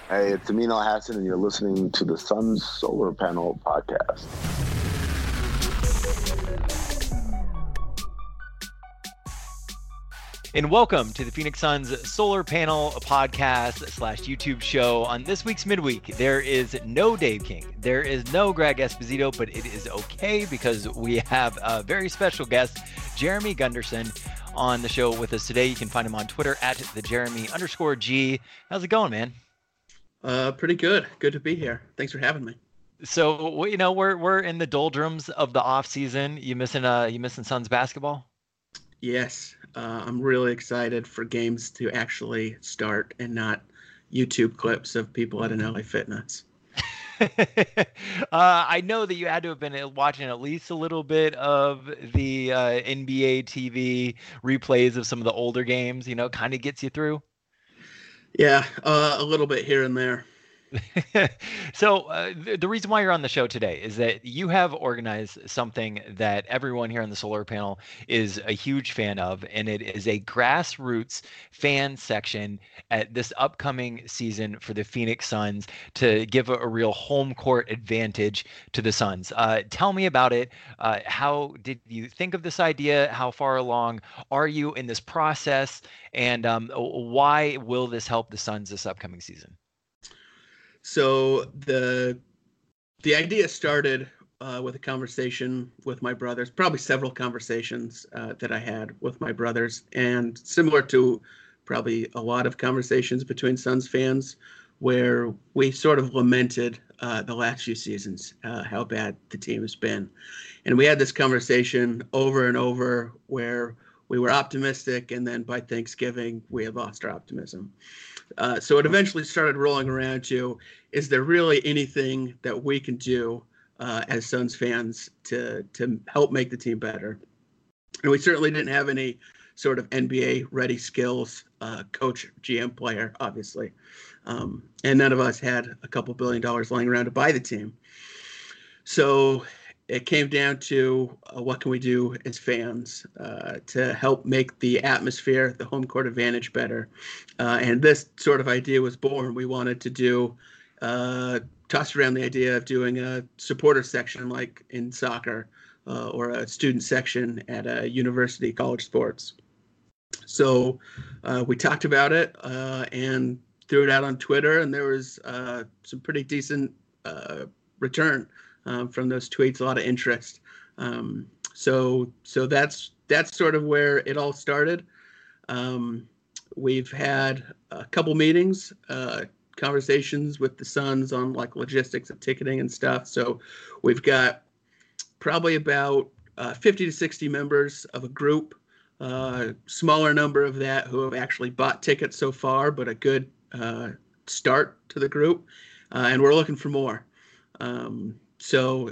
Hey, it's Amin Hassan, and you're listening to the Sun Solar Panel Podcast. And welcome to the Phoenix Suns Solar Panel Podcast / YouTube show. On this week's midweek, there is no Dave King. There is no Greg Esposito, but it is okay because we have a very special guest, Jeremy Gunderson, on the show with us today. You can find him on Twitter at @thejeremy_G. How's it going, man? Pretty good. Good to be here. Thanks for having me. So, you know, we're in the doldrums of the off season. You missing Suns basketball? Yes. I'm really excited for games to actually start and not YouTube clips of people at an LA Fitness. I know that you had to have been watching at least a little bit of the NBA TV replays of some of the older games, you know, kind of gets you through. Yeah, a little bit here and there. So the reason why you're on the show today is that you have organized something that everyone here on the solar panel is a huge fan of, and it is a grassroots fan section at this upcoming season for the Phoenix Suns to give a real home court advantage to the Suns. Tell me about it. How did you think of this idea? How far along are you in this process? And why will this help the Suns this upcoming season? So the idea started with a conversation with my brothers, probably several conversations that I had with my brothers, and similar to probably a lot of conversations between Suns fans, where we sort of lamented the last few seasons, how bad the team has been. And we had this conversation over and over where we were optimistic, and then by Thanksgiving, we had lost our optimism. So it eventually started rolling around to, is there really anything that we can do as Suns fans to help make the team better? And we certainly didn't have any sort of NBA-ready skills, coach, GM player, obviously. And none of us had a couple $1 billion lying around to buy the team. So it came down to what can we do as fans to help make the atmosphere, the home court advantage better. And this sort of idea was born. We wanted to do, tossed around the idea of doing a supporter section like in soccer or a student section at a university, college sports. So we talked about it and threw it out on Twitter, and there was some pretty decent return from those tweets, a lot of interest. So that's sort of where it all started. We've had a couple meetings, conversations with the Suns on like logistics of ticketing and stuff. So we've got probably about 50 to 60 members of a group, smaller number of that who have actually bought tickets so far, but a good start to the group. And we're looking for more. So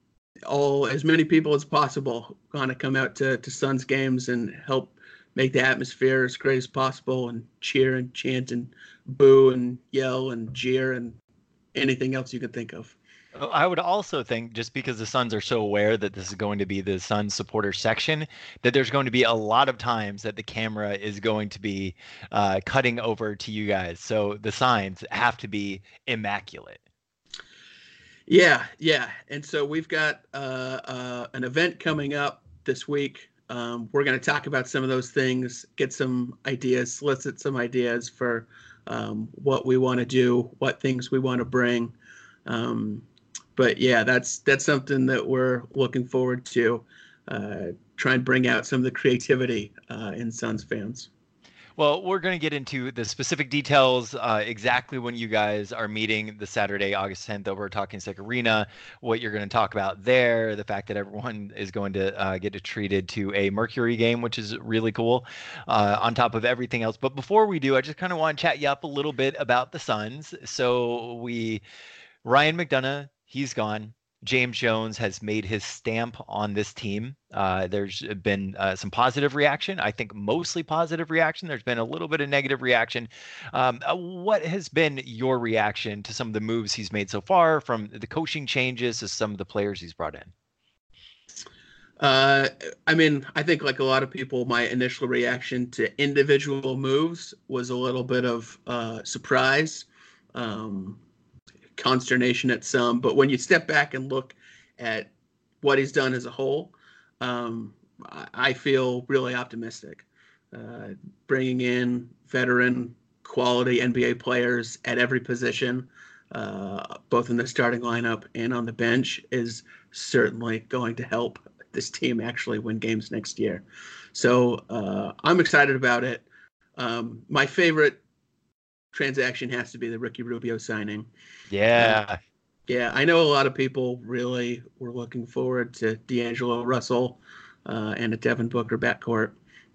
as many people as possible want to come out to Suns games and help make the atmosphere as great as possible and cheer and chant and boo and yell and jeer and anything else you can think of. I would also think, just because the Suns are so aware that this is going to be the Suns supporter section, that there's going to be a lot of times that the camera is going to be cutting over to you guys. So the signs have to be immaculate. Yeah. And so we've got an event coming up this week. We're going to talk about some of those things, get some ideas, solicit some ideas for what we want to do, what things we want to bring. But yeah, that's something that we're looking forward to, try and bring out some of the creativity in Suns fans. Well, we're going to get into the specific details, exactly when you guys are meeting the Saturday, August 10th over at Talking Stick Arena, what you're going to talk about there, the fact that everyone is going to get treated to a Mercury game, which is really cool, on top of everything else. But before we do, I just kind of want to chat you up a little bit about the Suns. So Ryan McDonough, he's gone. James Jones has made his stamp on this team. There's been some positive reaction. I think mostly positive reaction. There's been a little bit of negative reaction. What has been your reaction to some of the moves he's made so far, from the coaching changes to some of the players he's brought in? I mean, I think like a lot of people, my initial reaction to individual moves was a little bit of surprise. consternation at some. But when you step back and look at what he's done as a whole, I feel really optimistic. Bringing in veteran quality NBA players at every position, both in the starting lineup and on the bench, is certainly going to help this team actually win games next year. So I'm excited about it. My favorite transaction has to be the Ricky Rubio signing. Yeah. Yeah, I know a lot of people really were looking forward to D'Angelo Russell and a Devin Booker backcourt.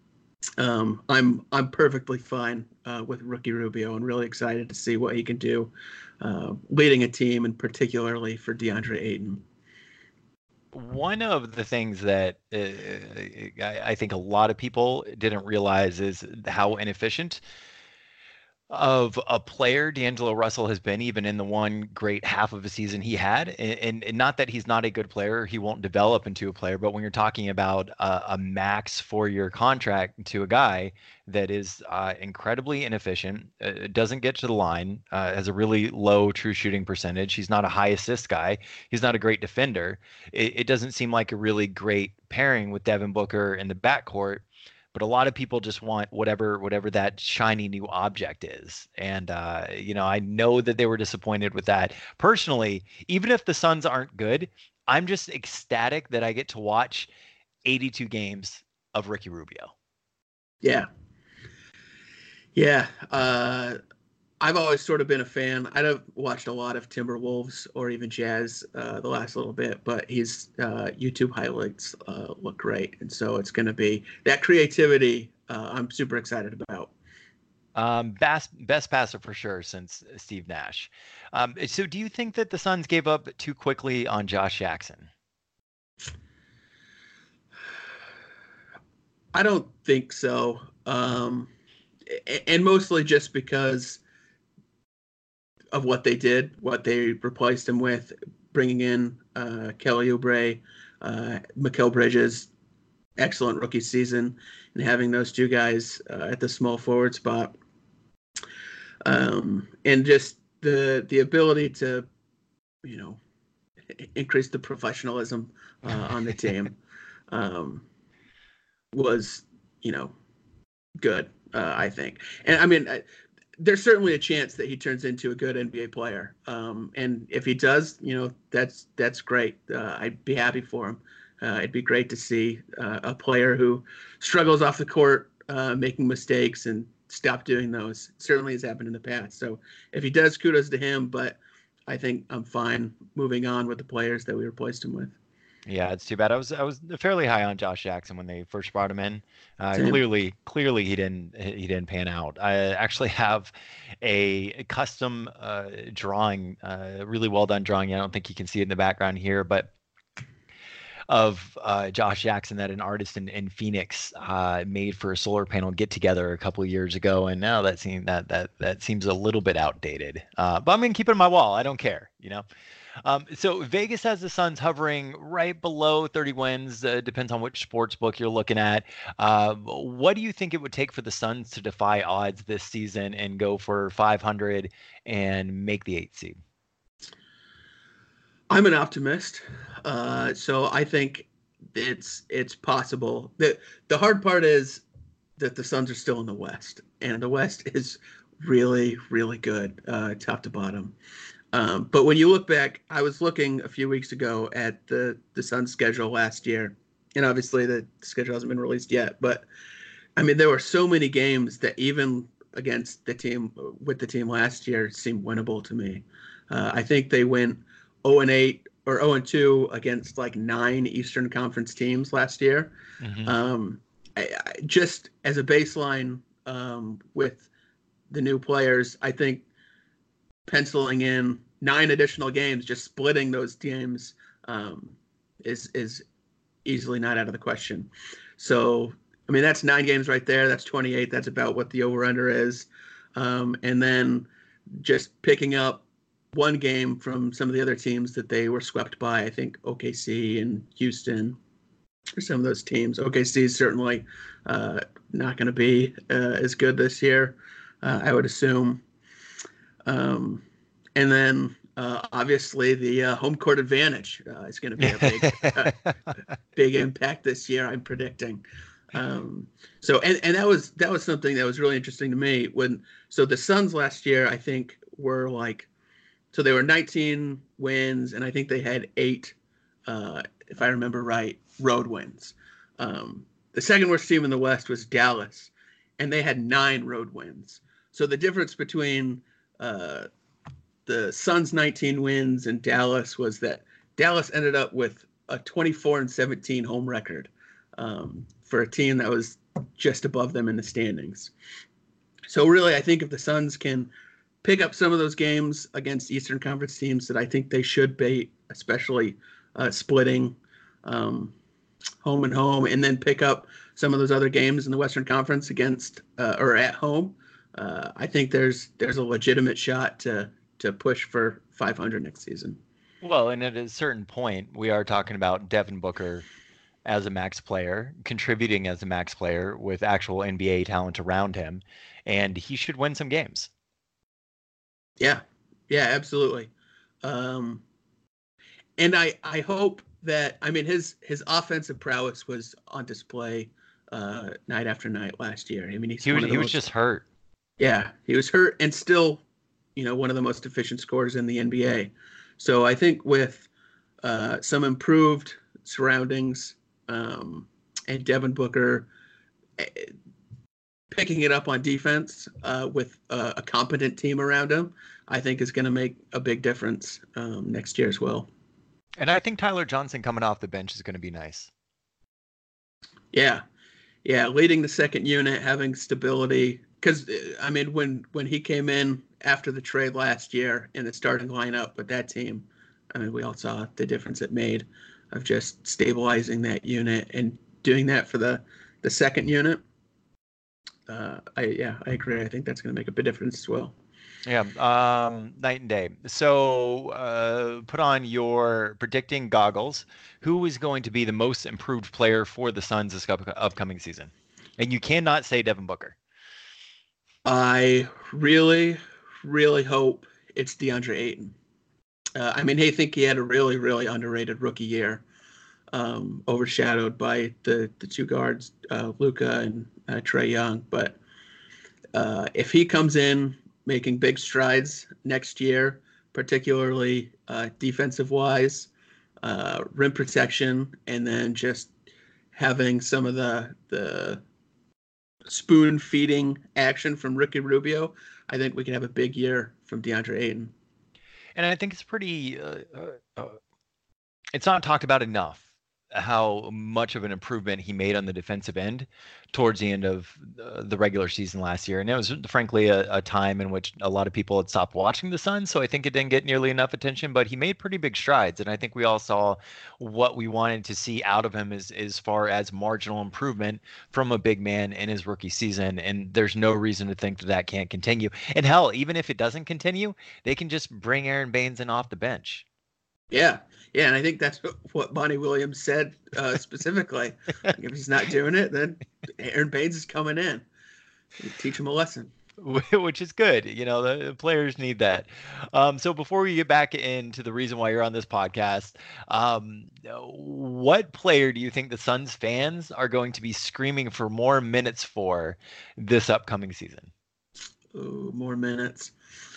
I'm perfectly fine with Ricky Rubio and really excited to see what he can do leading a team, and particularly for DeAndre Ayton. One of the things that I think a lot of people didn't realize is how inefficient of a player D'Angelo Russell has been, even in the one great half of a season he had. And not that he's not a good player, he won't develop into a player, but when you're talking about a max 4-year contract to a guy that is incredibly inefficient, doesn't get to the line, has a really low true shooting percentage. He's not a high assist guy. He's not a great defender. It doesn't seem like a really great pairing with Devin Booker in the backcourt. But a lot of people just want whatever that shiny new object is. And, I know that they were disappointed with that. Personally, even if the Suns aren't good, I'm just ecstatic that I get to watch 82 games of Ricky Rubio. Yeah. Yeah. I've always sort of been a fan. I've watched a lot of Timberwolves or even Jazz the last little bit, but his YouTube highlights look great. And so it's going to be that creativity I'm super excited about. Best passer for sure since Steve Nash. So do you think that the Suns gave up too quickly on Josh Jackson? I don't think so. And mostly just because of what they did, what they replaced him with, bringing in Kelly Oubre, Mikal Bridges, excellent rookie season, and having those two guys at the small forward spot. And just the ability to, increase the professionalism on the team was, good, I think. And I mean, there's certainly a chance that he turns into a good NBA player. And if he does, that's great. I'd be happy for him. It'd be great to see a player who struggles off the court, making mistakes and stop doing those. It certainly has happened in the past. So if he does, kudos to him. But I think I'm fine moving on with the players that we replaced him with. Yeah, it's too bad. I was fairly high on Josh Jackson when they first brought him in. Clearly he didn't pan out. I actually have a custom drawing, really well done drawing. I don't think you can see it in the background here, but of Josh Jackson that an artist in Phoenix made for a solar panel get together a couple of years ago, and now that seems a little bit outdated. But I'm gonna keep it on my wall. I don't care, So Vegas has the Suns hovering right below 30 wins. Depends on which sports book you're looking at. What do you think it would take for the Suns to defy odds this season and go for 500 and make the 8th seed? I'm an optimist, so I think it's possible. The hard part is that the Suns are still in the West, and the West is really, really good, top to bottom. But when you look back, I was looking a few weeks ago at the Suns schedule last year, and obviously the schedule hasn't been released yet. But I mean, there were so many games that even against the team last year seemed winnable to me. I think they went 0-8 or 0-2 against like 9 Eastern Conference teams last year. Mm-hmm. I just as a baseline with the new players, I think penciling in 9 additional games, just splitting those teams is easily not out of the question. So, I mean, that's 9 games right there. That's 28. That's about what the over-under is. And then just picking up one game from some of the other teams that they were swept by. I think OKC and Houston are some of those teams. OKC is certainly not going to be as good this year, I would assume. And then obviously the home court advantage is going to be a big impact this year, I'm predicting. So that was something that was really interesting to me so the Suns last year, I think, were so they were 19 wins, and I think they had 8, if I remember right, road wins. The second worst team in the West was Dallas, and they had 9 road wins. So the difference between the Suns' 19 wins and Dallas was that Dallas ended up with a 24-17 home record for a team that was just above them in the standings. So really, I think if the Suns can pick up some of those games against Eastern Conference teams that I think they should be, especially splitting home and home, and then pick up some of those other games in the Western Conference against or at home, I think there's a legitimate shot to push for 500 next season. Well, and at a certain point, we are talking about Devin Booker as a max player, contributing as a max player with actual NBA talent around him, and he should win some games. Yeah, absolutely. And I hope that, I mean, his offensive prowess was on display night after night last year. I mean, he was just hurt. Yeah, he was hurt and still, one of the most efficient scorers in the NBA. So I think with some improved surroundings and Devin Booker picking it up on defense with a competent team around him, I think is going to make a big difference next year as well. And I think Tyler Johnson coming off the bench is going to be nice. Yeah, leading the second unit, having stability. Because, I mean, when he came in after the trade last year in the starting lineup with that team, I mean, we all saw the difference it made of just stabilizing that unit and doing that for the second unit. I agree. I think that's going to make a big difference as well. Yeah, night and day. So put on your predicting goggles. Who is going to be the most improved player for the Suns this upcoming season? And you cannot say Devin Booker. I really, really hope it's DeAndre Ayton. I mean, I think he had a really, really underrated rookie year, overshadowed by the two guards, Luka and Trae Young. But if he comes in making big strides next year, particularly defensive-wise, rim protection, and then just having some of the spoon-feeding action from Ricky Rubio, I think we can have a big year from DeAndre Ayton. And I think it's pretty it's not talked about enough how much of an improvement he made on the defensive end towards the end of the regular season last year. And it was frankly a time in which a lot of people had stopped watching the Suns. So I think it didn't get nearly enough attention, but he made pretty big strides. And I think we all saw what we wanted to see out of him as far as marginal improvement from a big man in his rookie season. And there's no reason to think that can't continue. And hell, even if it doesn't continue, they can just bring Aaron Baines in off the bench. Yeah, and I think that's what Bonnie Williams said specifically. If he's not doing it, then Aaron Baines is coming in. Teach him a lesson. Which is good. The players need that. So before we get back into the reason why you're on this podcast, what player do you think the Suns fans are going to be screaming for more minutes for this upcoming season? Ooh, more minutes.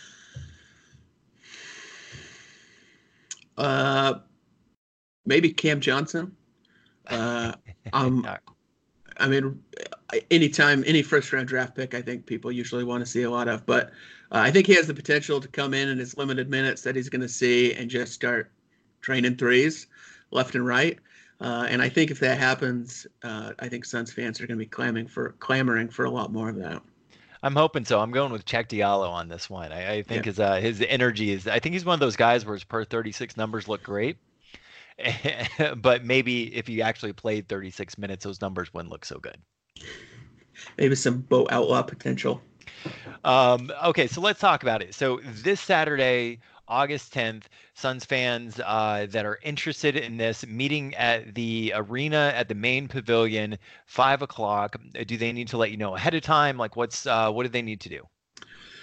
Maybe Cam Johnson. I mean, anytime, any first round draft pick, I think people usually want to see a lot of, but I think he has the potential to come in his limited minutes that he's going to see and just start draining threes left and right. And I think if that happens, I think Suns fans are going to be clamoring for a lot more of that. I'm hoping so. I'm going with Cheick Diallo on this one. I think his energy is. I think he's one of those guys where his per 36 numbers look great, but maybe if he actually played 36 minutes, those numbers wouldn't look so good. Maybe some Bo Outlaw potential. Okay, so let's talk about it. So this Saturday, August 10th, Suns fans that are interested in this meeting at the arena at the main pavilion, 5 o'clock. Do they need to let you know ahead of time? Like what do they need to do?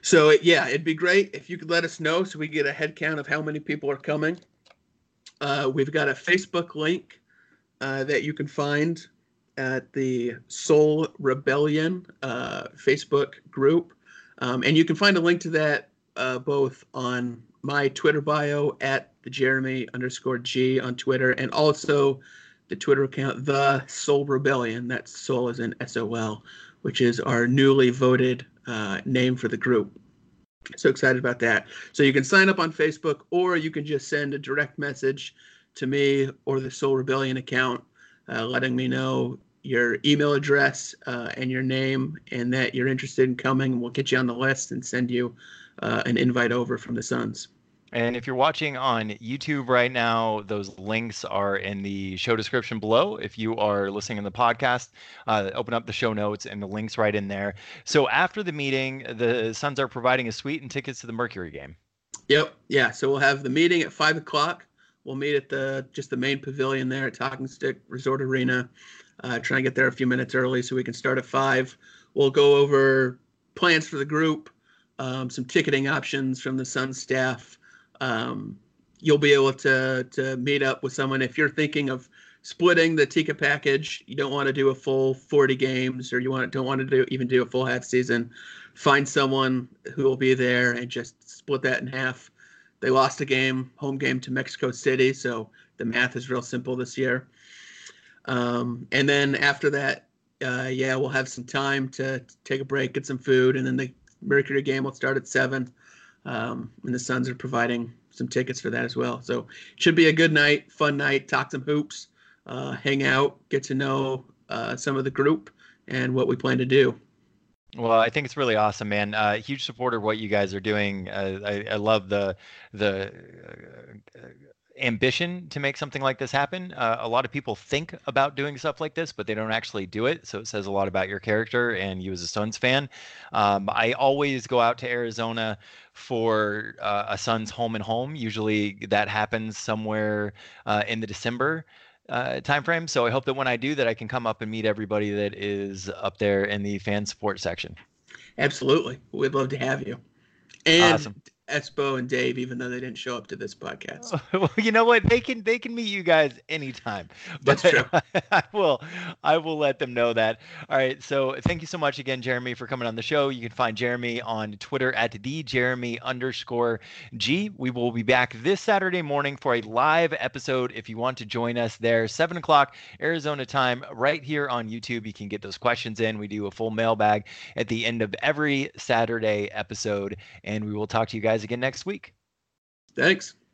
So it'd be great if you could let us know so we get a head count of how many people are coming. We've got a Facebook link that you can find at the Soul Rebellion Facebook group. And you can find a link to that both on my Twitter bio at the Jeremy_G on Twitter, and also the Twitter account, The Soul Rebellion. That's Soul as in SOL, which is our newly voted name for the group. So excited about that. So you can sign up on Facebook, or you can just send a direct message to me or the Soul Rebellion account, letting me know your email address and your name, and that you're interested in coming. We'll get you on the list and send you an invite over from the Suns. And if you're watching on YouTube right now, those links are in the show description below. If you are listening in the podcast, open up the show notes and the links right in there. So after the meeting, the Suns are providing a suite and tickets to the Mercury game. Yep. Yeah. So we'll have the meeting at 5:00. We'll meet at the main pavilion there at Talking Stick Resort Arena. Try and get there a few minutes early so we can start at 5. We'll go over plans for the group, some ticketing options from the Suns staff. You'll be able to meet up with someone if you're thinking of splitting the ticket package. You don't want to do a full 40 games, or don't want to even do a full half season. Find someone who will be there and just split that in half. They lost a home game to Mexico City, so the math is real simple this year. And then after that, we'll have some time to take a break, get some food, and then the Mercury game will start at 7. And the Suns are providing some tickets for that as well. So it should be a good night, fun night, talk some hoops, hang out, get to know some of the group and what we plan to do. Well, I think it's really awesome, man. Huge supporter of what you guys are doing. I love the ambition to make something like this happen. A lot of people think about doing stuff like this, but they don't actually do it. So it says a lot about your character and you as a Suns fan. I always go out to Arizona for a Suns home and home. Usually that happens somewhere in the December timeframe. So I hope that when I do that, I can come up and meet everybody that is up there in the fan support section. Absolutely. We'd love to have you. And awesome. Espo and Dave, even though they didn't show up to this podcast. Well, you know what? They can meet you guys anytime. That's true. I will let them know that. All right. So thank you so much again, Jeremy, for coming on the show. You can find Jeremy on Twitter at @thejeremy_G. We will be back this Saturday morning for a live episode. If you want to join us there, 7:00 Arizona time, right here on YouTube. You can get those questions in. We do a full mailbag at the end of every Saturday episode, and we will talk to you guys again next week. Thanks.